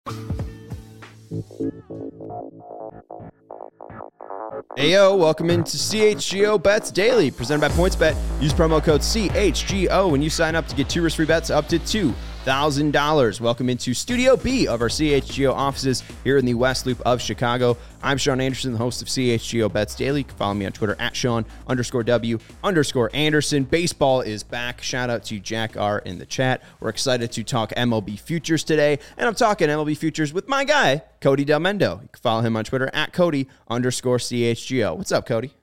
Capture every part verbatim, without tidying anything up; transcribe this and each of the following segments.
Hey yo, welcome into C H G O Bets Daily, presented by PointsBet. Use promo code C H G O when you sign up to get two risk-free bets up to two thousand dollars. Welcome into Studio B of our C H G O offices here in the West Loop of Chicago. I'm Sean Anderson, the host of C H G O Bets Daily. You can follow me on Twitter at Sean underscore W underscore Anderson. Baseball is back. Shout out to Jack R in the chat. We're excited to talk M L B futures today, and I'm talking M L B futures with my guy, Cody Del Mendo. You can follow him on Twitter at Cody underscore C H G O. What's up, Cody?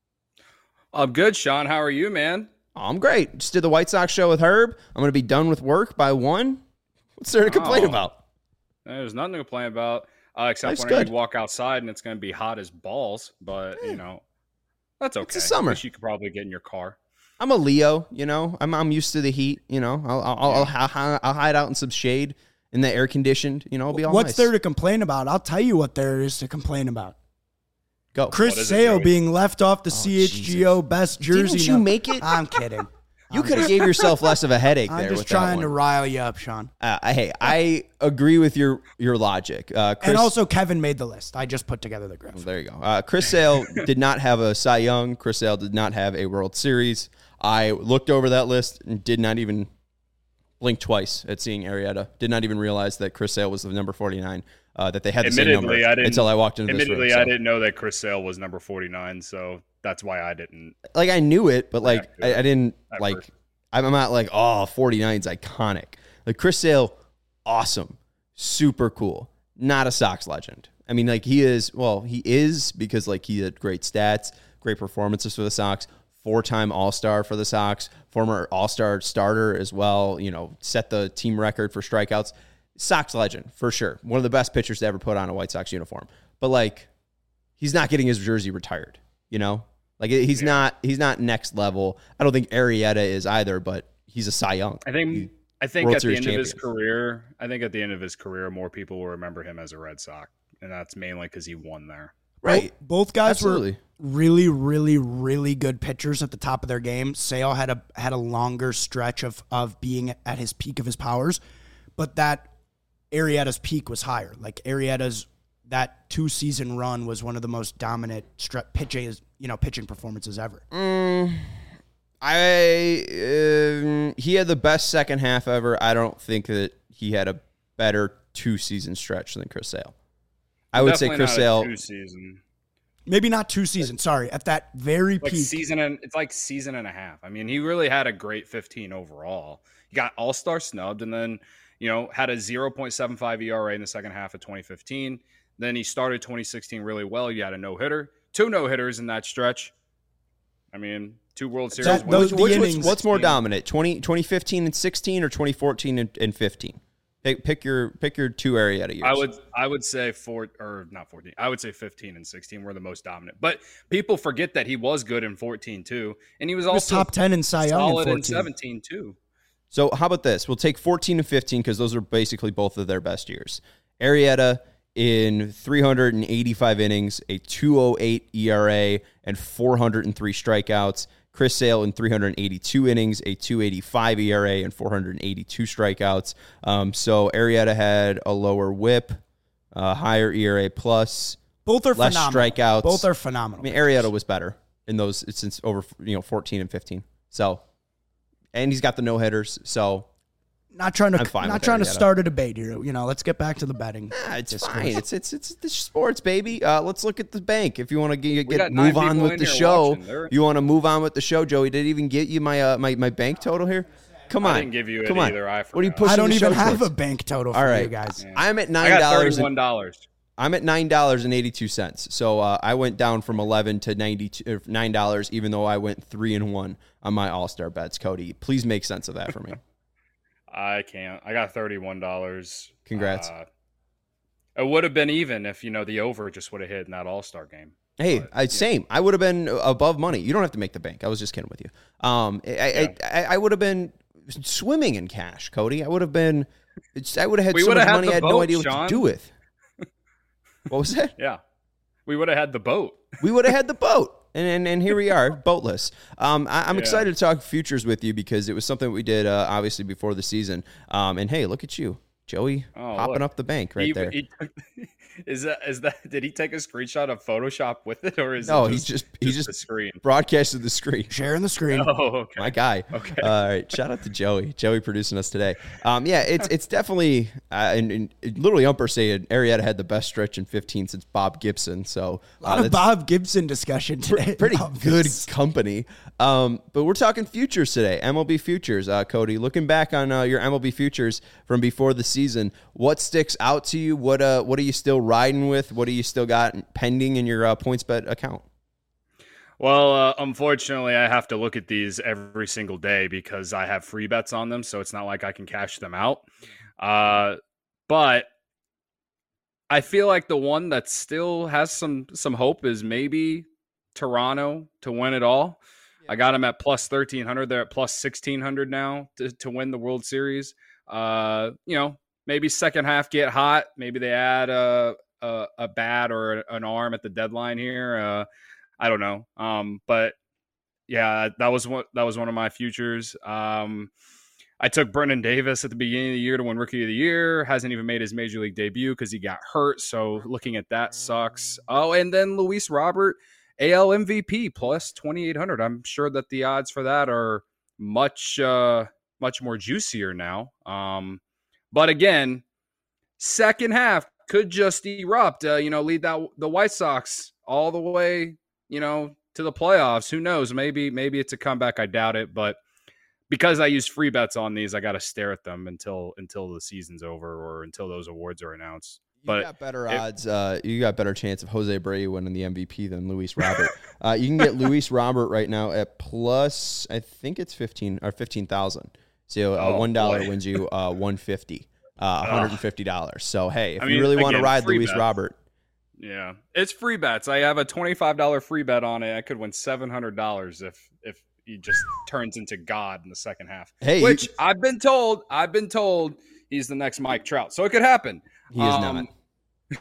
I'm good, Sean. How are you, man? Oh, I'm great. Just did the White Sox show with Herb. I'm going to be done with work by one. What's there to complain oh, about? There's nothing to complain about, uh, except Life's when good. you walk outside and it's going to be hot as balls. But, Yeah. you know, that's okay. It's the summer. At least you could probably get in your car. I'm a Leo, you know. I'm I'm used to the heat, you know. I'll I'll, I'll, I'll, I'll hide out in some shade in the air conditioned, you know. It'll be all What's nice. there to complain about? I'll tell you what there is to complain about. Go. Chris What is it, Sale Joey? being left off the Oh, C H G O best jersey. Didn't you no- make it? I'm kidding. You I'm could have just- gave yourself less of a headache I'm there just with trying that to one. rile you up, Sean. Uh, hey, I agree with your your logic. Uh, Chris, And also, Kevin made the list. I just put together the graph. there you go. Uh, Chris Sale did not have a Cy Young. Chris Sale did not have a World Series. I looked over that list and did not even blink twice at seeing Arrieta. Did not even realize that Chris Sale was the number forty-nine. Uh, that they had the same number Admittedly, I didn't, until I walked into this room. admittedly, so. I didn't know that Chris Sale was number forty-nine, so that's why I didn't. Like I knew it, but like Yeah, I, I didn't at like. first. I'm not like oh forty-nine is iconic. Like Chris Sale, awesome, super cool. Not a Sox legend. I mean, like he is. Well, he is because like he had great stats, great performances for the Sox. Four-time All-Star for the Sox, former All-Star starter as well. You know, set the team record for strikeouts. Sox legend for sure. One of the best pitchers to ever put on a White Sox uniform. But like, he's not getting his jersey retired. You know, like he's Yeah. not he's not next level. I don't think Arrieta is either, but he's a Cy Young. I think. He- I think World at the Series end of his champion. career, I think at the end of his career, more people will remember him as a Red Sox, and that's mainly because he won there. Right. Both, both guys Absolutely. were really, really, really good pitchers at the top of their game. Sale had a had a longer stretch of of being at his peak of his powers, but that Arrieta's peak was higher. Like Arrieta's that two season run was one of the most dominant stre- pitching you know pitching performances ever. Mm, I um, he had the best second half ever. I don't think that he had a better two season stretch than Chris Sale. I would say Definitely Chris not a Sale. two season. Maybe not two seasons. Sorry, at that very like peak. season and it's like season and a half. I mean, he really had a great fifteen overall. He got All-Star snubbed and then, you know, had a zero point seven five E R A in the second half of twenty fifteen. Then he started twenty sixteen really well. He had a no-hitter, two no-hitters in that stretch. I mean, two World Series That- wins. those- Which, the which was, innings- what's more dominant, twenty, twenty fifteen and sixteen or twenty fourteen and, and fifteen? Pick, pick your pick your two Arrieta years. I would I would say four or not fourteen. I would say fifteen and sixteen were the most dominant. But people forget that he was good in fourteen too, and he was He was also top ten in Cy Young in solid in fourteen. seventeen too. So how about this? We'll take fourteen and fifteen because those are basically both of their best years. Arrieta in three hundred eighty-five innings, a two oh eight E R A, and four hundred three strikeouts. Chris Sale in three hundred eighty-two innings, a two eighty-five E R A, and four hundred eighty-two strikeouts. Um, so Arrieta had a lower whip, uh, higher E R A plus, Both are less phenomenal. strikeouts. Both are phenomenal. I mean, Arrieta was better in those since over you know fourteen and fifteen. So, and he's got the no hitters. So Not trying to I'm fine not with trying to Arrieta. start a debate here. You know, let's get back to the betting. ah, it's discourse. fine. It's it's it's the sports, baby. Uh, let's look at the bank. If you want to get, We get got nine move on people with in the here show, watching. They're- you want to move on with the show. Joey did even get you my uh, my my bank total here. Come on, I didn't give you it Come on. either. I What are you forgot. pushing I don't the even show have towards? a bank total for All right, you guys. Yeah. I'm at I nine got dollars. thirty-one dollars. I'm at nine dollars and eighty two cents. So uh, I went down from eleven to ninety two nine dollars, even though I went three and one on my All Star bets. Cody, please make sense of that for me. I can't. I got thirty-one dollars. Congrats. Uh, it would have been even if, you know, the over just would have hit in that All-Star game. Hey, But, I, same. I would have been above money. You don't have to make the bank. I was just kidding with you. Um, I, Yeah. I, I, I would have been swimming in cash, Cody. I would have been. It's, I would have had We so would much have had money. the I had no boat, idea what Sean. to do with. What was that? Yeah. We would have had the boat. We would have had the boat. And, and and here we are, boatless. Um, I, I'm Yeah. excited to talk futures with you because it was something that we did, uh, obviously, before the season. Um, and, hey, look at you. Joey Oh, popping look. up the bank right He- there. he took- is that is that? Did he take a screenshot of Photoshop with it, or is No, it he's just, just he just just the screen? broadcasted the screen. Sharing the screen. Oh, okay. My guy. Okay. All right. Shout out to Joey. Joey producing us today. Um, yeah, it's it's definitely uh, and, and it literally Umper said Arietta had the best stretch in fifteen since Bob Gibson. So A lot uh, of that's Bob Gibson discussion today. pretty about good this. company. Um, but we're talking futures today. M L B futures. Uh, Cody, looking back on uh, your M L B futures from before the season, what sticks out to you? What uh, what are you still riding with? What do you still got pending in your uh, PointsBet account? Well, uh, unfortunately, I have to look at these every single day because I have free bets on them, so it's not like I can cash them out. Uh, but I feel like the one that still has some some hope is maybe Toronto to win it all. I got them at plus thirteen hundred. They're at plus sixteen hundred now to, to win the World Series. Uh, you know, maybe second half get hot. Maybe they add a a, a bat or an arm at the deadline here. Uh, I don't know. Um, but yeah, that was one that was one of my futures. Um, I took Brendan Davis at the beginning of the year to win Rookie of the Year. Hasn't even made his major league debut because he got hurt. So looking at that sucks. Oh, and then Luis Robert, A L M V P plus twenty-eight hundred. I'm sure that the odds for that are much uh, much more juicier now. Um, but again, second half could just erupt. Uh, you know, lead that the White Sox all the way, you know, to the playoffs. Who knows? Maybe maybe it's a comeback. I doubt it, but because I use free bets on these, I got to stare at them until until the season's over or until those awards are announced. You But got better if- odds. Uh, you got better chance of Jose Abreu winning the M V P than Luis Robert. uh, you can get Luis Robert right now at plus, I think it's fifteen or fifteen thousand. So uh, Oh, one dollar boy. wins you uh, one fifty, uh, one hundred and fifty dollars. So hey, if I you mean, really want to again, ride free Luis bets. Robert, Yeah, it's free bets. I have a twenty-five dollars free bet on it. I could win seven hundred dollars if if he just turns into God in the second half. Hey, which you- I've been told, I've been told he's the next Mike Trout, so it could happen. he is Um, not.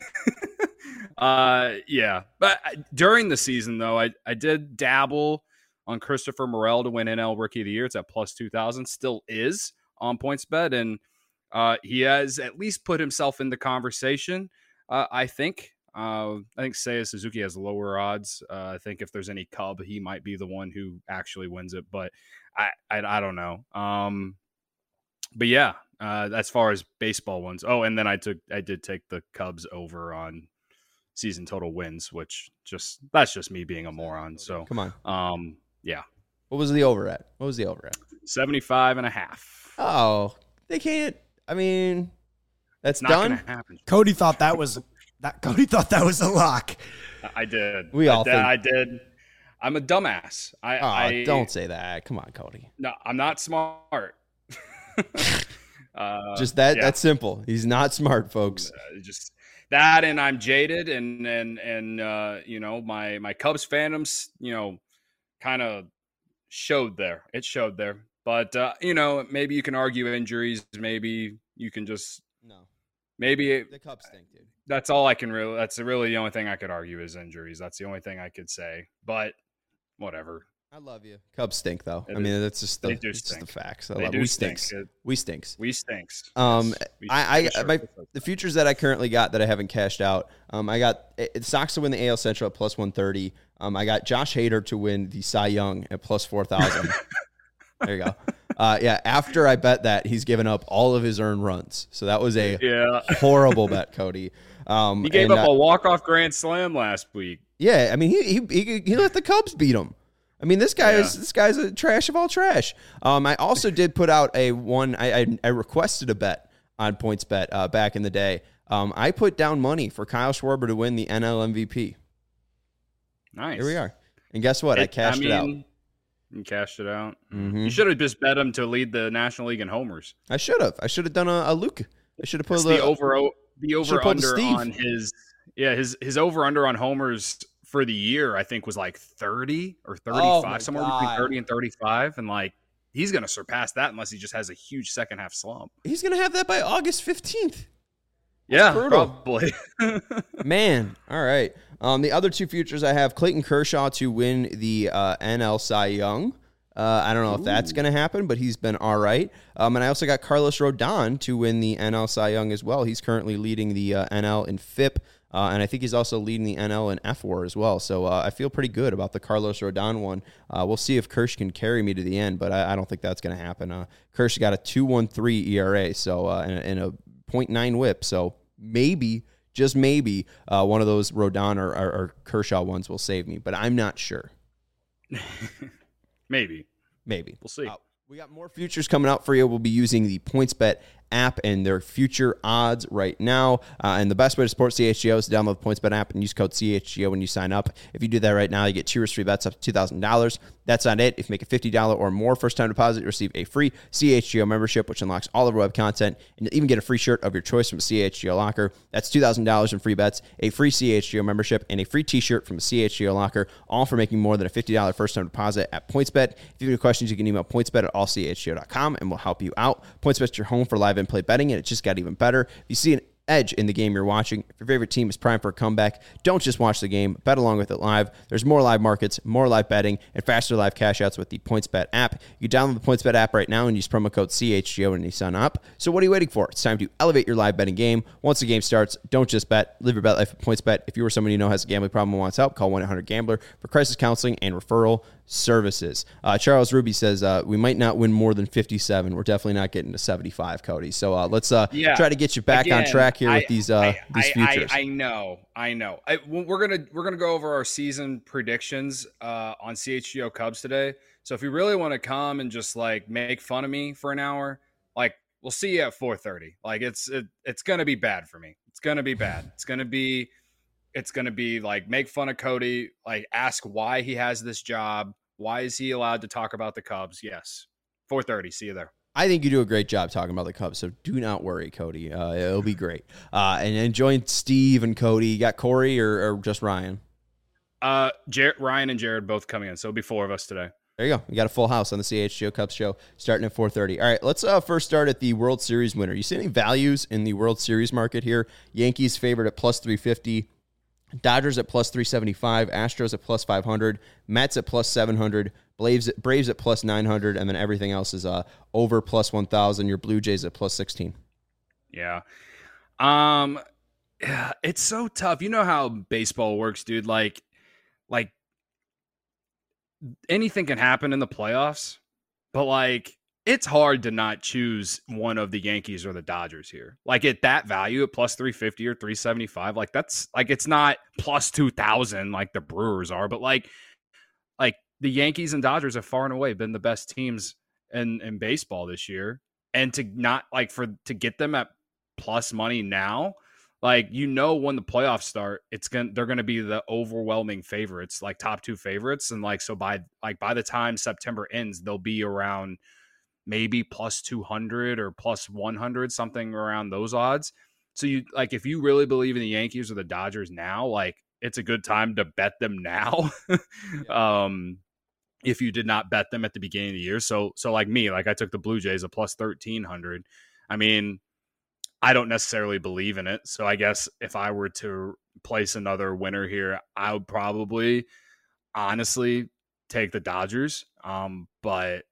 uh, yeah, but I- during the season though, I I did dabble on Christopher Morel to win N L Rookie of the Year. It's at plus two thousand. Still is on PointsBet, and uh, he has at least put himself in the conversation. Uh, I think. Uh, I think Seiya Suzuki has lower odds. Uh, I think if there's any Cub, he might be the one who actually wins it. But I, I, I don't know. Um, but yeah, uh, as far as baseball ones. Oh, and then I took, I did take the Cubs over on season total wins, which just that's just me being a moron. So, Come on. um, yeah, What was the over at? What was the over at? seventy-five and a half. Oh, they can't. I mean, that's Not done. gonna happen. Cody thought that was that. Cody thought that was a lock. I did. We all I did, think- I did. I'm a dumbass. I, Oh, I don't say that. Come on, Cody. No, I'm not smart. uh, Just that. yeah. That's simple. He's not smart, folks. Uh, just that, and I'm jaded, and and and uh, you know, my my Cubs fandoms, you know, kind of showed there. It showed there, but uh, you know, maybe you can argue injuries. Maybe you can just No, maybe it, the Cubs stink, dude. that's all I can really. That's really the only thing I could argue is injuries. That's the only thing I could say. But whatever. I love you. Cubs stink, though. It I mean, that's just the, they do it's just the stink. facts. I They love- do we stink. stinks. It- We stinks. We stinks. Um, Yes, we- I, for I sure. my, the futures that I currently got that I haven't cashed out. Um, I got it, it Sox to win the A L Central at plus one thirty. Um, I got Josh Hader to win the Cy Young at plus four thousand. There you go. Uh, yeah. After I bet that, he's given up all of his earned runs, so that was a yeah. horrible bet, Cody. Um, He gave and, up uh, a walk-off grand slam last week. Yeah, I mean, he he he, he let the Cubs beat him. I mean, this guy Yeah. is this guy's a trash of all trash. Um, I also did put out a one. I I, I requested a bet on PointsBet uh, back in the day. Um, I put down money for Kyle Schwarber to win the N L M V P. Nice. Here we are, and guess what? I cashed it out. You cashed it out. Mhm. You should have just bet him to lead the National League in homers. I should have. I should have done a, a Luke. I should have put It's a the little, over the over Should've pulled the under Steve. on his yeah his his over under on homers for the year I think was like thirty or Oh, thirty-five, my somewhere God. between thirty and thirty-five, and like he's gonna surpass that unless he just has a huge second half slump. He's gonna have that by August fifteenth. Yeah, brutal. probably. Man, all right. Um, the other two futures I have Clayton Kershaw to win the uh, N L Cy Young Uh, I don't know Ooh. if that's going to happen, but he's been all right. Um, and I also got Carlos Rodon to win the N L Cy Young as well. He's currently leading the uh, N L in F I P, uh, and I think he's also leading the N L in F W A R as well. So uh, I feel pretty good about the Carlos Rodon one. Uh, we'll see if Kersh can carry me to the end, but I, I don't think that's going to happen. Uh, Kersh got a two point one three E R A, so uh, and, and a point nine whip, so maybe, just maybe, uh, one of those Rodon or, or, or Kershaw ones will save me, but I'm not sure. Maybe. Maybe. We'll see. Uh, we got more futures coming out for you. We'll be using the PointsBet app and their future odds right now. Uh, and the best way to support C H G O is to download the PointsBet app and use code C H G O when you sign up. If you do that right now, you get two risk-free bets up to two thousand dollars. That's not it. If you make a fifty dollars or more first-time deposit, you receive a free C H G O membership, which unlocks all of our web content, and you'll even get a free shirt of your choice from a C H G O locker. That's two thousand dollars in free bets, a free C H G O membership, and a free t-shirt from a C H G O locker, all for making more than a fifty dollars first-time deposit at PointsBet. If you have any questions, you can email pointsbet at all c h g o dot com, and we'll help you out. PointsBet's your home for live in-play betting, and it just got even better. If you see an edge in the game you're watching, if your favorite team is primed for a comeback, don't just watch the game, bet along with it live. There's more live markets, more live betting, and faster live cash outs with the PointsBet app. You can download the PointsBet app right now and use promo code C H G O when you sign up. So what are you waiting for? It's time to elevate your live betting game. Once the game starts, don't just bet. Live your bet life at PointsBet. If you or someone you know has a gambling problem and wants help, call one eight hundred gambler for crisis counseling and referral services. Uh, Charles Ruby says uh, we might not win more than fifty-seven. We're definitely not getting to seventy-five, Cody. So uh, let's uh, yeah. try to get you back Again, on track here I, with these uh, I, these I, futures. I, I know, I know. I, we're gonna we're gonna go over our season predictions uh, on C H G O Cubs today. So if you really want to come and just like make fun of me for an hour, like we'll see you at four thirty. Like it's it, it's gonna be bad for me. It's gonna be bad. It's gonna be it's gonna be like make fun of Cody. Like ask why he has this job. Why is he allowed to talk about the Cubs? Yes. four thirty. See you there. I think you do a great job talking about the Cubs, so do not worry, Cody. Uh, it'll be great. Uh, and then join Steve and Cody. You got Corey or, or just Ryan? Uh, Jer- Ryan and Jared both coming in, so it'll be four of us today. There you go. We got a full house on the C H G O Cubs show starting at four thirty. All right, let's uh, first start at the World Series winner. You see any values in the World Series market here? Yankees favored at plus three fifty. Dodgers at plus three seventy-five, Astros at plus five hundred, Mets at plus seven hundred, Braves, Braves at plus nine hundred, and then everything else is uh, over plus one thousand. Your Blue Jays at plus sixteen. Yeah. Um, yeah, it's so tough. You know how baseball works, dude. Like, like anything can happen in the playoffs, but like, it's hard to not choose one of the Yankees or the Dodgers here. Like at that value at plus three fifty or three seventy-five, like that's like, it's not plus two thousand like the Brewers are, but like, like the Yankees and Dodgers have far and away been the best teams in, in baseball this year. And to not like for, to get them at plus money now, like, you know, when the playoffs start, it's going to, they're going to be the overwhelming favorites, like top two favorites. And like, so by like, by the time September ends, they'll be around maybe plus two hundred or plus one hundred, something around those odds. So you like, if you really believe in the Yankees or the Dodgers now, like it's a good time to bet them now. yeah. Um, if you did not bet them at the beginning of the year. So, so like me, like I took the Blue Jays at plus thirteen hundred. I mean, I don't necessarily believe in it. So I guess if I were to place another winner here, I would probably honestly take the Dodgers. Um, but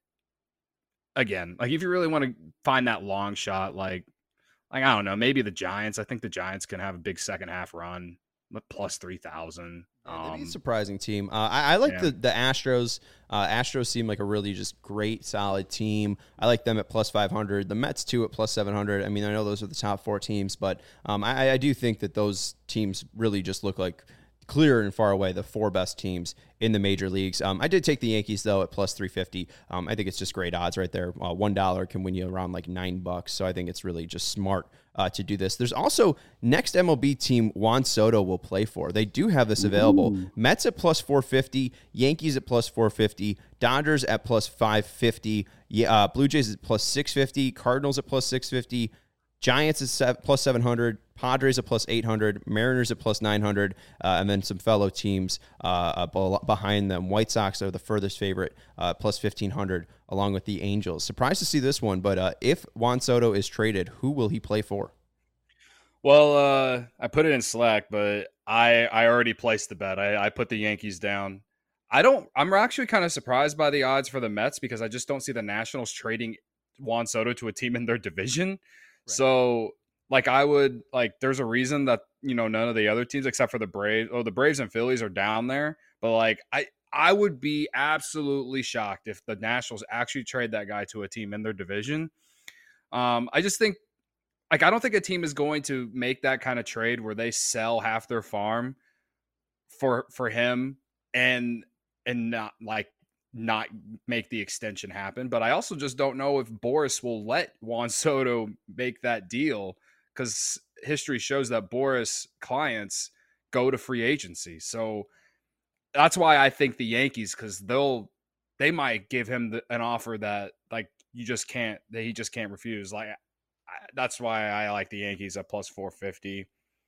again, like if you really want to find that long shot, like, like I don't know, maybe the Giants. I think the Giants can have a big second half run, plus three thousand. Yeah, um, a surprising team. Uh, I, I like yeah. the the Astros. Uh, Astros seem like a really just great, solid team. I like them at plus five hundred. The Mets too at plus seven hundred. I mean, I know those are the top four teams, but um, I, I do think that those teams really just look like clear and far away the four best teams in the major leagues. Um, I did take the Yankees, though, at plus three fifty. Um, I think it's just great odds right there. Uh, one dollar can win you around like nine bucks. So I think it's really just smart uh, to do this. There's also next M L B team Juan Soto will play for. They do have this available. Ooh. Mets at plus four fifty, Yankees at plus four fifty, Dodgers at plus five fifty, yeah, uh, Blue Jays at plus six fifty, Cardinals at plus six fifty, Giants at seven, plus seven hundred, Padres at plus eight hundred, Mariners at plus nine hundred, uh, and then some fellow teams uh, behind them. White Sox are the furthest favorite, uh, plus fifteen hundred, along with the Angels. Surprised to see this one, but uh, if Juan Soto is traded, who will he play for? Well, uh, I put it in Slack, but I I already placed the bet. I, I put the Yankees down. I don't. I'm actually kind of surprised by the odds for the Mets because I just don't see the Nationals trading Juan Soto to a team in their division. Right. So, like, I would like. There's a reason that you know none of the other teams except for the Braves. Oh, the Braves and Phillies are down there. But like, I I would be absolutely shocked if the Nationals actually trade that guy to a team in their division. Um, I just think, like, I don't think a team is going to make that kind of trade where they sell half their farm for for him and. and not like not make the extension happen. But I also just don't know if Boras will let Juan Soto make that deal because history shows that Boras clients go to free agency. So that's why I think the Yankees, because they'll they might give him the, an offer that like you just can't that he just can't refuse. Like I, that's why I like the Yankees at plus four fifty.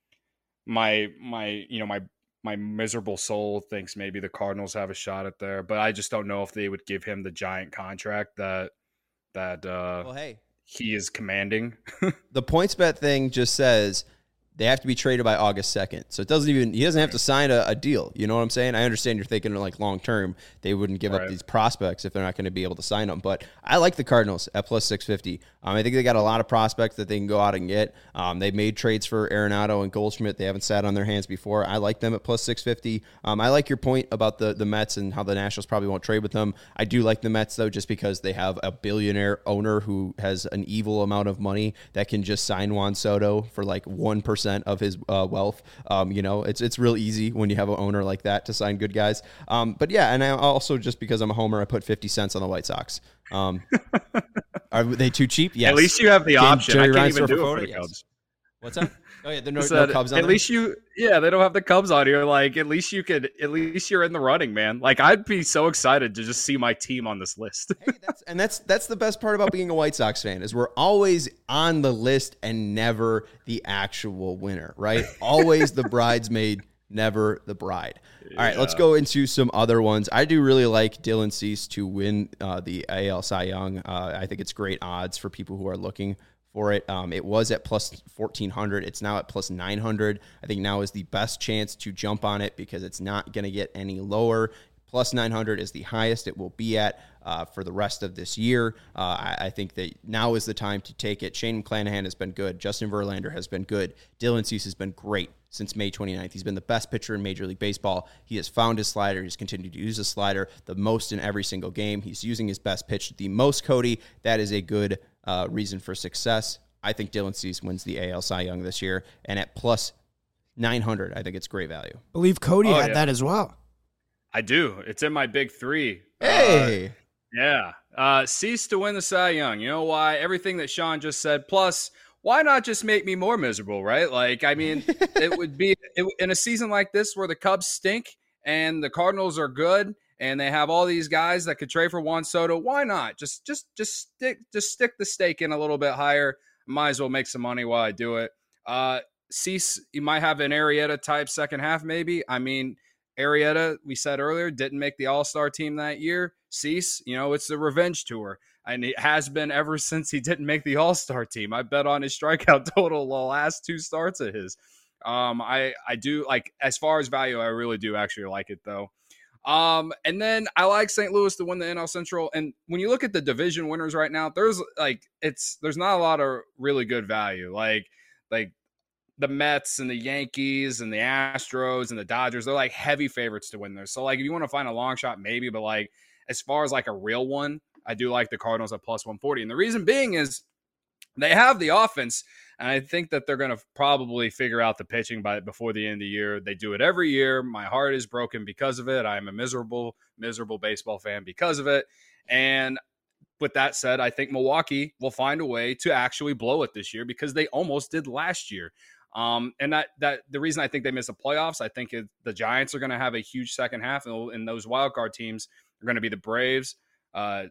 My my you know my My miserable soul thinks maybe the Cardinals have a shot at there, but I just don't know if they would give him the giant contract that that uh, well, hey, he is commanding. The PointsBet thing just says they have to be traded by August second. So it doesn't even, he doesn't have to sign a, a deal. You know what I'm saying? I understand you're thinking like long term, they wouldn't give right. up these prospects if they're not going to be able to sign them. But I like the Cardinals at plus six fifty. Um, I think they got a lot of prospects that they can go out and get. Um, they've made trades for Arenado and Goldschmidt. They haven't sat on their hands before. I like them at plus six fifty. Um, I like your point about the, the Mets and how the Nationals probably won't trade with them. I do like the Mets, though, just because they have a billionaire owner who has an evil amount of money that can just sign Juan Soto for like one percent of his uh, wealth. Um, you know, it's it's real easy when you have an owner like that to sign good guys. Um, but yeah, and I also, just because I'm a homer, I put fifty cents on the White Sox. Um, are they too cheap? Yes. At least you have the Can option. Jerry I can't Ryan even do it for for the yes. Cubs. What's that? Oh yeah, there are no, Said, no Cubs on At there? least you, yeah, they don't have the Cubs on here. Like, at least you could, at least you're in the running, man. Like, I'd be so excited to just see my team on this list. Hey, that's, and that's that's the best part about being a White Sox fan is we're always on the list and never the actual winner, right? Always the bridesmaid, never the bride. Yeah. All right, let's go into some other ones. I do really like Dylan Cease to win uh, the A L Cy Young. Uh, I think it's great odds for people who are looking for it. Um, it was at plus fourteen hundred. It's now at plus nine hundred. I think now is the best chance to jump on it because it's not going to get any lower. Plus nine hundred is the highest it will be at uh, for the rest of this year. Uh, I, I think that now is the time to take it. Shane McClanahan has been good. Justin Verlander has been good. Dylan Cease has been great since May twenty-ninth. He's been the best pitcher in Major League Baseball. He has found his slider. He's continued to use his slider the most in every single game. He's using his best pitch the most, Cody. That is a good uh, reason for success. I think Dylan Cease wins the A L Cy Young this year. And at plus nine hundred, I think it's great value. I believe Cody oh, had yeah. that as well. I do. It's in my big three. Hey. Uh, yeah. Uh, Cease to win the Cy Young. You know why? Everything that Sean just said. Plus, why not just make me more miserable, right? Like, I mean, it would be it, in a season like this where the Cubs stink and the Cardinals are good and they have all these guys that could trade for Juan Soto. Why not? Just, just, just stick, just stick the stake in a little bit higher. Might as well make some money while I do it. Uh, Cease, you might have an Arrieta type second half, maybe. I mean, Arrieta, we said earlier, didn't make the All-Star team that year. Cease, you know, it's the revenge tour. And it has been ever since he didn't make the All-Star team. I bet on his strikeout total the last two starts of his. Um, I, I do, like, as far as value, I really do actually like it, though. Um, and then I like Saint Louis to win the N L Central. And when you look at the division winners right now, there's, like, it's there's not a lot of really good value. Like, like, the Mets and the Yankees and the Astros and the Dodgers, they're like heavy favorites to win there. So like, if you want to find a long shot, maybe, but like, as far as like a real one, I do like the Cardinals at plus one forty. And the reason being is they have the offense. And I think that they're going to probably figure out the pitching by before the end of the year. They do it every year. My heart is broken because of it. I'm a miserable, miserable baseball fan because of it. And with that said, I think Milwaukee will find a way to actually blow it this year because they almost did last year. Um, and that that the reason I think they miss the playoffs, I think it, the Giants are going to have a huge second half, and, and those wild card teams are going to be the Braves, uh,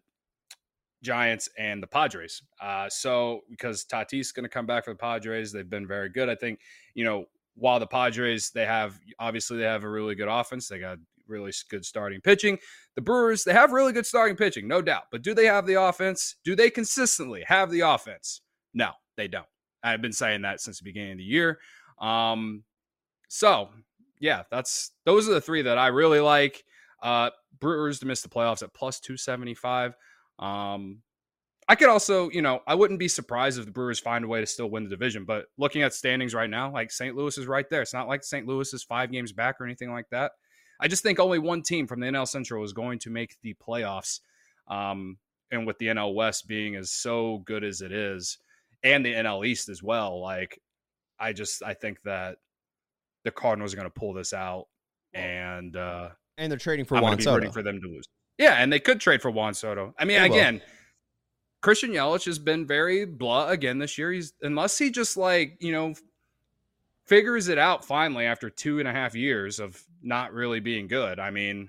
Giants, and the Padres. Uh, so because Tatis is going to come back for the Padres, they've been very good. I think, you know, while the Padres, they have obviously they have a really good offense, they got really good starting pitching. The Brewers, they have really good starting pitching, no doubt. But do they have the offense? Do they consistently have the offense? No, they don't. I've been saying that since the beginning of the year. Um, so, yeah, that's those are the three that I really like. Uh, Brewers to miss the playoffs at plus two seventy-five. Um, I could also, you know, I wouldn't be surprised if the Brewers find a way to still win the division. But looking at standings right now, like Saint Louis is right there. It's not like Saint Louis is five games back or anything like that. I just think only one team from the N L Central is going to make the playoffs. Um, and with the N L West being as so good as it is, and the N L East as well, like I just I think that the Cardinals are going to pull this out, and uh, and they're trading for I'm Juan going to be Soto. rooting for them to lose. Yeah, and they could trade for Juan Soto. I mean, They will. again, Christian Yelich has been very blah again this year. He's unless he just like you know figures it out finally after two and a half years of not really being good. I mean,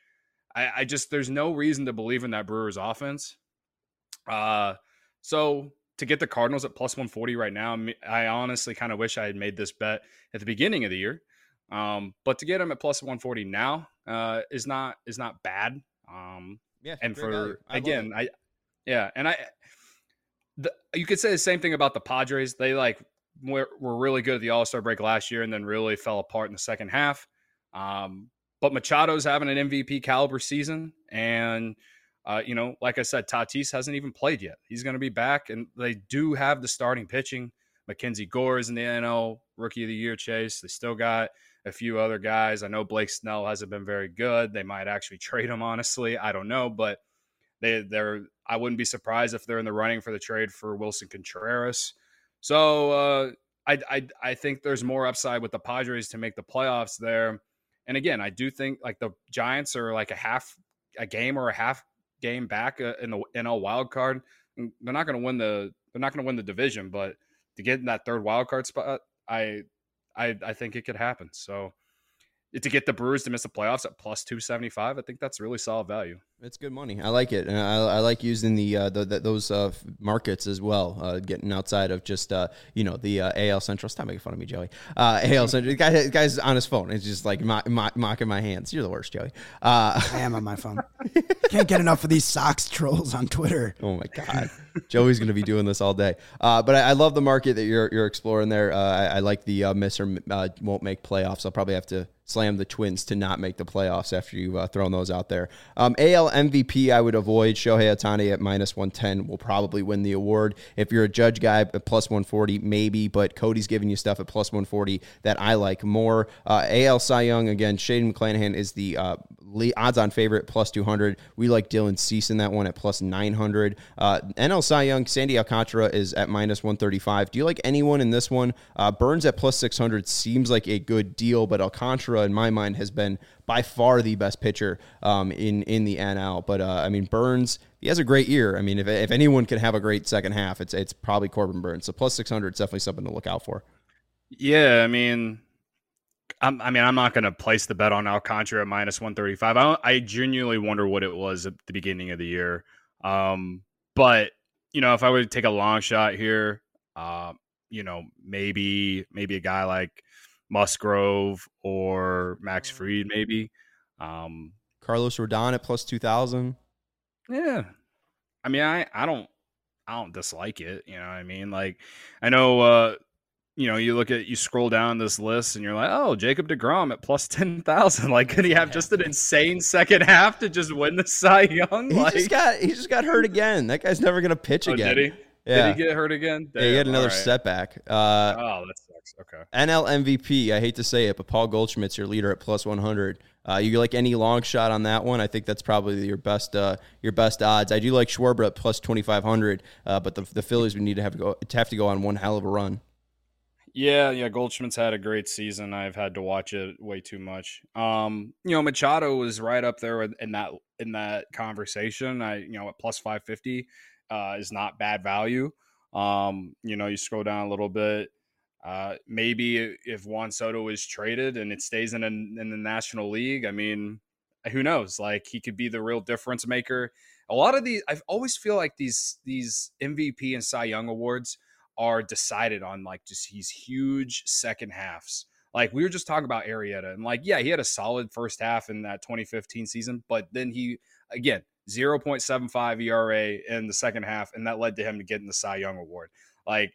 I, I just there's no reason to believe in that Brewers offense. Uh, so to get the Cardinals at plus one forty right now, I honestly kind of wish I had made this bet at the beginning of the year. Um, but to get them at plus one forty now uh, is not is not bad. Um, Yeah, and great value. for I love again, it. I yeah, and I the, you could say the same thing about the Padres. They like were, were really good at the All-Star break last year and then really fell apart in the second half. Um, but Machado's having an M V P caliber season, and uh, you know, like I said, Tatis hasn't even played yet. He's going to be back, and they do have the starting pitching. Mackenzie Gore is in the N L Rookie of the Year chase. They still got a few other guys. I know Blake Snell hasn't been very good. They might actually trade him, honestly. I don't know, but they they're I wouldn't be surprised if they're in the running for the trade for Wilson Contreras. So uh, I, I I think there's more upside with the Padres to make the playoffs there. And again, I do think like the Giants are like a half a game or a half game back uh, in the N L wild card. They're not going to win the they're not going to win the division, but to get in that third wild card spot, I I I think it could happen. So to get the Brewers to miss the playoffs at plus two seventy-five, I think that's really solid value. It's good money. I like it, and I, I like using the, uh, the, the those uh, markets as well. Uh, getting outside of just uh, you know the uh, A L Central. Stop making fun of me, Joey. Uh, A L Central. The guy, the guy's on his phone. It's just like mock, mock, mocking my hands. You're the worst, Joey. Uh, I am on my phone. Can't get enough of these Sox trolls on Twitter. Oh my God, Joey's going to be doing this all day. Uh, but I, I love the market that you're you're exploring there. Uh, I, I like the uh, miss or uh, won't make playoffs. I'll probably have to slam the Twins to not make the playoffs after you've uh, thrown those out there. Um, A L M V P, I would avoid. Shohei Ohtani at minus one ten will probably win the award. If you're a Judge guy at plus one forty, maybe, but Cody's giving you stuff at plus one forty that I like more. Uh, A L Cy Young, again, Shaden McClanahan is the uh, odds-on favorite, plus two hundred. We like Dylan Cease in that one at plus nine hundred. Uh, N L Cy Young, Sandy Alcantara is at minus one thirty-five. Do you like anyone in this one? Uh, Burns at plus six hundred seems like a good deal, but Alcantara, in my mind, has been by far the best pitcher um, in, in the N L. But, uh, I mean, Burns, he has a great year. I mean, if, if anyone can have a great second half, it's it's probably Corbin Burns. So plus six hundred is definitely something to look out for. Yeah, I mean, I'm, I mean, I'm not going to place the bet on Alcantara at minus one thirty-five. I, I genuinely wonder what it was at the beginning of the year. Um, but, you know, if I would take a long shot here, uh, you know, maybe maybe a guy like Musgrove or Max Fried, maybe. Um, Carlos Rodon at plus two thousand. Yeah. I mean, I, I don't I don't dislike it. You know what I mean? Like, I know, uh, you know, you look at, you scroll down this list and you're like, oh, Jacob deGrom at plus ten thousand. Like, could he have just an insane second half to just win the Cy Young? He Like, just got he just got hurt again. That guy's never going to pitch oh, again. did he? Yeah. Did he get hurt again? Yeah, he had Damn, another all right. setback. Uh, Oh, that sucks. Okay. N L M V P, I hate to say it, but Paul Goldschmidt's your leader at plus one hundred. Uh, you like any long shot on that one? I think that's probably your best uh, your best odds. I do like Schwarber at plus twenty-five hundred, uh, but the the Phillies would need to have to go to have to go on one hell of a run. Yeah, yeah, Goldschmidt's had a great season. I've had to watch it way too much. Um, you know, Machado was right up there in that in that conversation. I, you know, at plus five fifty uh, is not bad value. Um, you know, you scroll down a little bit. Uh, maybe if Juan Soto is traded and it stays in a, in the National League, I mean, who knows? Like, he could be the real difference maker. A lot of these, I always feel like these these M V P and Cy Young awards are decided on like just these huge second halves. Like, we were just talking about Arrieta, and like, yeah, he had a solid first half in that twenty fifteen season, but then he, again, zero point seven five E R A in the second half, and that led to him to getting the Cy Young award. Like,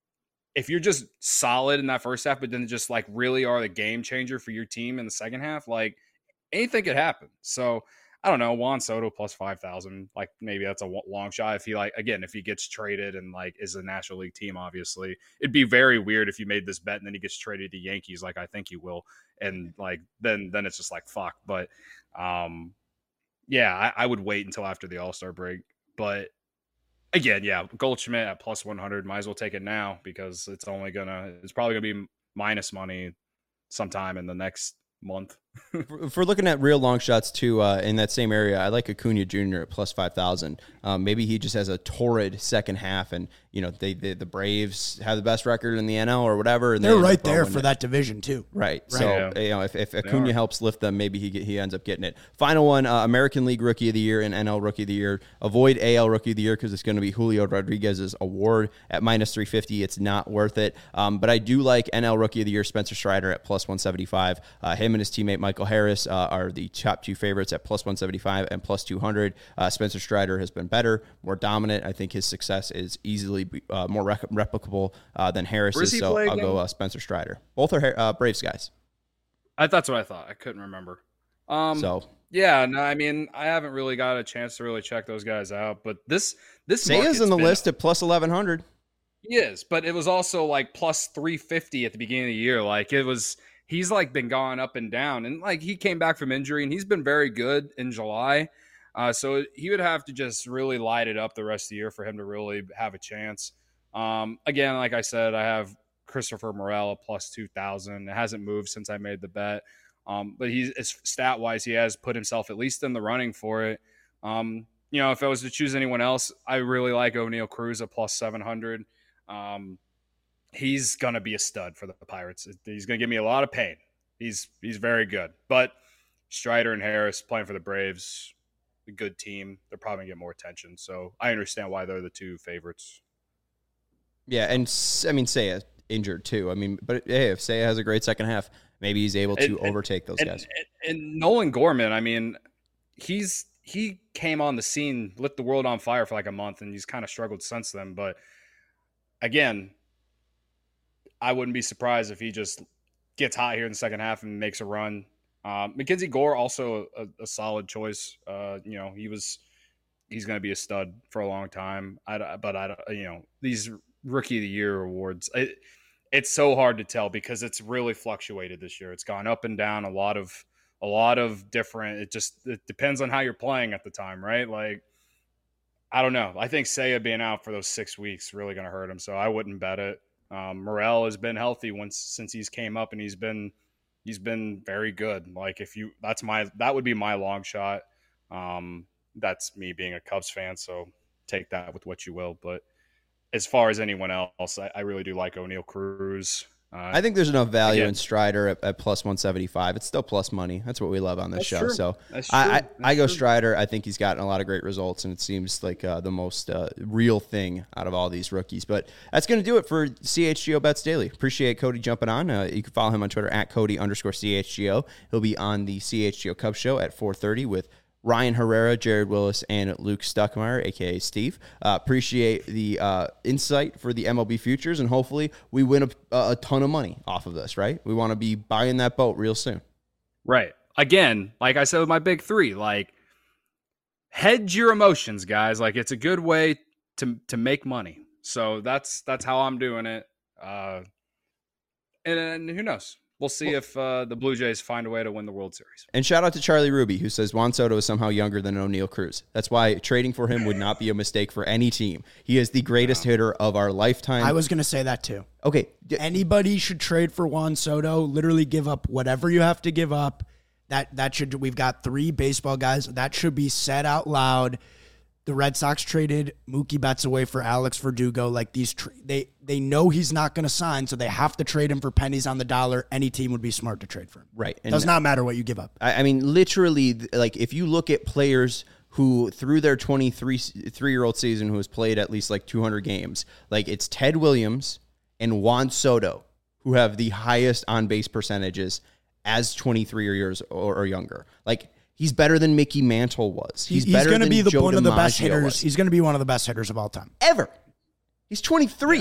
if you're just solid in that first half, but then just like really are the game changer for your team in the second half, like anything could happen. So I don't know, Juan Soto plus five thousand. Like maybe that's a long shot. If he like again, if he gets traded and like is a National League team, obviously it'd be very weird if you made this bet and then he gets traded to Yankees, like I think he will, and like then then it's just like fuck. But um, yeah, I, I would wait until after the All Star break. But again, yeah, Goldschmidt at plus one hundred, might as well take it now because it's only gonna it's probably gonna be minus money sometime in the next month. If we're looking at real long shots too, uh, in that same area, I like Acuna Junior at plus five thousand. Um, maybe he just has a torrid second half, and you know they, they the Braves have the best record in the N L or whatever. And they're they right there for it. That division too. Right. right. So yeah. you know if, if Acuna helps lift them, maybe he get, he ends up getting it. Final one: uh, American League Rookie of the Year and N L Rookie of the Year. Avoid A L Rookie of the Year because it's going to be Julio Rodriguez's award at minus three fifty. It's not worth it. Um, but I do like N L Rookie of the Year Spencer Strider at plus one seventy-five. Uh, him and his teammate Michael Harris uh, are the top two favorites at plus one seventy-five and plus two hundred. Uh, Spencer Strider has been better, more dominant. I think his success is easily uh, more rec- replicable uh, than Harris's, so I'll again? go uh, Spencer Strider. Both are uh, Braves guys. I, that's what I thought. I couldn't remember. Um, so yeah, no, I mean, I haven't really got a chance to really check those guys out, but this this Seiya's in the list at plus eleven hundred. He is, but it was also like plus three fifty at the beginning of the year. Like it was. He's like been going up and down, and like he came back from injury and he's been very good in July. Uh, so he would have to just really light it up the rest of the year for him to really have a chance. Um, again, like I said, I have Christopher Morel at plus two thousand. It hasn't moved since I made the bet. Um, but he's stat wise, he has put himself at least in the running for it. Um, you know, if I was to choose anyone else, I really like O'Neal Cruz at plus seven hundred. Um, He's going to be a stud for the Pirates. He's going to give me a lot of pain. He's he's very good. But Strider and Harris playing for the Braves, a good team. They're probably going to get more attention. So I understand why they're the two favorites. Yeah, and I mean, Seiya injured too. I mean, but hey, if Seiya has a great second half, maybe he's able to and, overtake those and, guys. And, and Nolan Gorman, I mean, he's he came on the scene, lit the world on fire for like a month, and he's kind of struggled since then. But again, I wouldn't be surprised if he just gets hot here in the second half and makes a run. Um, Mackenzie Gore also a, a solid choice. Uh, you know, he was he's going to be a stud for a long time. I, but I don't, you know, these Rookie of the Year awards, it, it's so hard to tell because it's really fluctuated this year. It's gone up and down a lot of a lot of different. It just it depends on how you're playing at the time, right? Like I don't know. I think Seiya being out for those six weeks really going to hurt him, so I wouldn't bet it. Um, Morel has been healthy once since he's came up, and he's been he's been very good. Like if you, that's my that would be my long shot. Um, that's me being a Cubs fan, so take that with what you will. But as far as anyone else, I, I really do like O'Neal Cruz. Uh, I think there's enough value again, in Strider at, at plus one seventy-five. It's still plus money. That's what we love on this show. True. So that's I, I, true. I go true. Strider. I think he's gotten a lot of great results, and it seems like uh, the most uh, real thing out of all these rookies. But that's going to do it for C H G O Bets Daily. Appreciate Cody jumping on. Uh, you can follow him on Twitter at Cody underscore C H G O. He'll be on the C H G O Cubs show at four thirty with Ryan Herrera, Jared Willis, and Luke Stuckmeyer, a k a. Steve. Uh, appreciate the uh, insight for the M L B futures, and hopefully we win a, a ton of money off of this, right? We want to be buying that boat real soon. Right. Again, like I said with my big three, like hedge your emotions, guys. Like it's a good way to to make money. So that's that's how I'm doing it. Uh, and, and who knows? We'll see if uh, the Blue Jays find a way to win the World Series. And shout out to Charlie Ruby, who says Juan Soto is somehow younger than O'Neal Cruz. That's why trading for him would not be a mistake for any team. He is the greatest no. hitter of our lifetime. I was going to say that too. Okay. Anybody should trade for Juan Soto. Literally give up whatever you have to give up. That that should we've got three baseball guys. That should be said out loud. The Red Sox traded Mookie Betts away for Alex Verdugo. Like these, tra- they they know he's not going to sign, so they have to trade him for pennies on the dollar. Any team would be smart to trade for him. Right. It does not matter what you give up. I, I mean, literally, like if you look at players who through their twenty-three three-year-old season who has played at least like two hundred games, like it's Ted Williams and Juan Soto who have the highest on-base percentages as twenty-three years or, or younger. Like. He's better than Mickey Mantle was. He's, he's better going to than be the, Joe one of the DiMaggio best hitters. was. He's going to be one of the best hitters of all time ever. He's twenty-three. Yeah.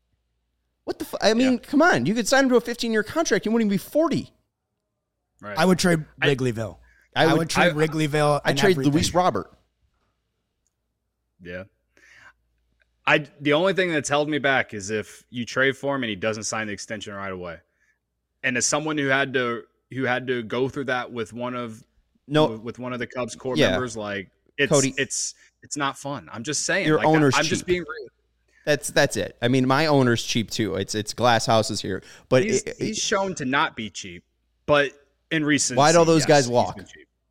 What the? F- I mean, yeah. come on. You could sign him to a fifteen-year contract. You wouldn't even be forty. Right. I would trade Wrigleyville. I would, I would trade I, Wrigleyville. I trade everything. Luis Robert. Yeah. I the only thing that's held me back is if you trade for him and he doesn't sign the extension right away. And as someone who had to who had to go through that with one of no with one of the Cubs core yeah. members, like it's Cody, it's it's not fun. I'm just saying. Your like, owner's I'm cheap. just being real. That's that's it. I mean, my owner's cheap too. It's it's glass houses here, but he's, it, he's shown to not be cheap. But in recent, why'd all those yes, guys walk?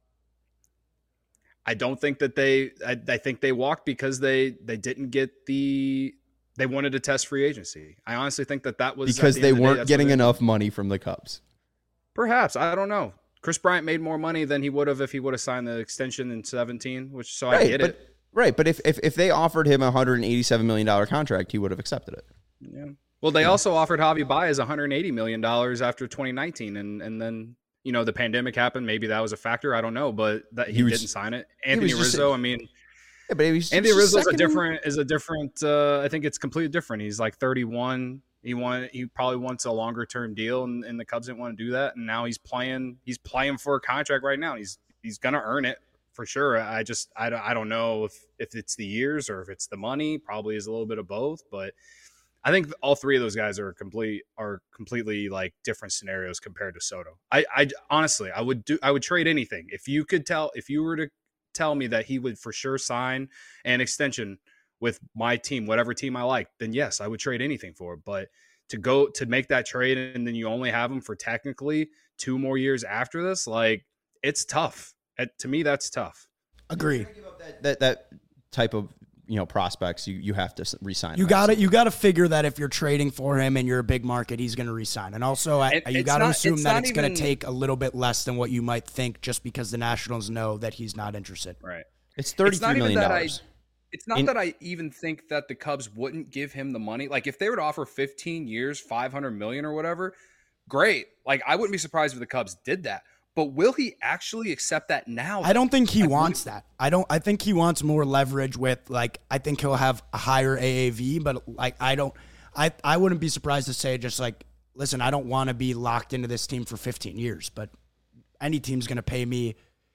I don't think that they. I, I think they walked because they they didn't get the. They wanted to test free agency. I honestly think that that was because the they the weren't day, getting enough money from the Cubs. Perhaps, I don't know. Chris Bryant made more money than he would have if he would have signed the extension in seventeen, which so right, I get but, it. Right, but if, if if they offered him a one hundred eighty-seven million dollars contract, he would have accepted it. Yeah. Well, they yeah. also offered Javi Baez one hundred eighty million dollars after twenty nineteen, and and then you know the pandemic happened. Maybe that was a factor. I don't know, but that he, he was, didn't sign it. Anthony Rizzo, I mean. Yeah, but was, Anthony Rizzo is a different is a different. Uh, I think it's completely different. He's like thirty-one. He wanted. He probably wants a longer term deal, and, and the Cubs didn't want to do that. And now he's playing. He's playing for a contract right now. He's he's gonna earn it for sure. I just I don't I don't know if if it's the years or if it's the money. Probably is a little bit of both. But I think all three of those guys are complete are completely like different scenarios compared to Soto. I I honestly I would do I would trade anything if you could tell if you were to. tell me that he would for sure sign an extension with my team, whatever team I like, then yes, I would trade anything for it. But to go to make that trade and then you only have him for technically two more years after this, like it's tough. It, to me, that's tough. Agree. That, that that type of you know prospects, you you have to re-sign. You got to you got to figure that if you're trading for him and you're a big market, he's going to re-sign. And also, I, you got to assume it's that it's going to take a little bit less than what you might think, just because the Nationals know that he's not interested. Right. It's thirty-three million dollars. It's not In, that I even think that the Cubs wouldn't give him the money. Like if they were to offer fifteen years, five hundred million or whatever, great. Like I wouldn't be surprised if the Cubs did that. But will he actually accept that now? I don't think he I wants that. I don't. I think he wants more leverage with like. I think he'll have a higher A A V, but like I don't. I I wouldn't be surprised to say just like, listen, I don't want to be locked into this team for fifteen years, but any team's going to pay me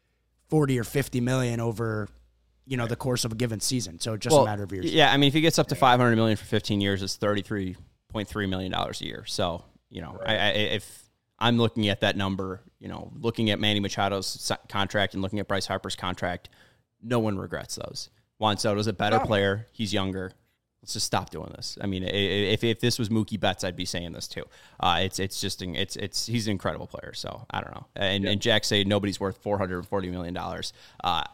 forty or fifty million over, you know, the course of a given season. So it's just well, a matter of years. Yeah, I mean, if he gets up to five hundred million for fifteen years, it's thirty-three point three million dollars a year. So you know, right. I, I, if I'm looking at that number, you know, looking at Manny Machado's contract and looking at Bryce Harper's contract, no one regrets those. Juan Soto's a better oh. player. He's younger. Let's just stop doing this. I mean, if if this was Mookie Betts, I'd be saying this too. Uh, it's it's just it's it's he's an incredible player. So I don't know. And yeah. and Jack say nobody's worth four hundred forty million dollars. Uh,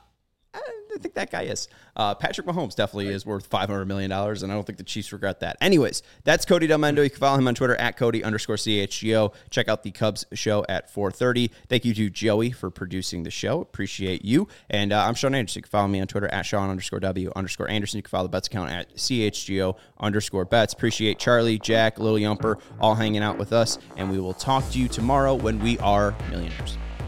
I think that guy is. Uh, Patrick Mahomes definitely right. is worth five hundred million dollars, and I don't think the Chiefs regret that. Anyways, that's Cody Delmendo. You can follow him on Twitter at Cody underscore C H G O. Check out the Cubs show at four thirty. Thank you to Joey for producing the show. Appreciate you. And uh, I'm Sean Anderson. You can follow me on Twitter at Sean underscore W underscore Anderson. You can follow the Bets account at C H G O underscore Bets. Appreciate Charlie, Jack, Lil Yumper all hanging out with us, and we will talk to you tomorrow when we are millionaires.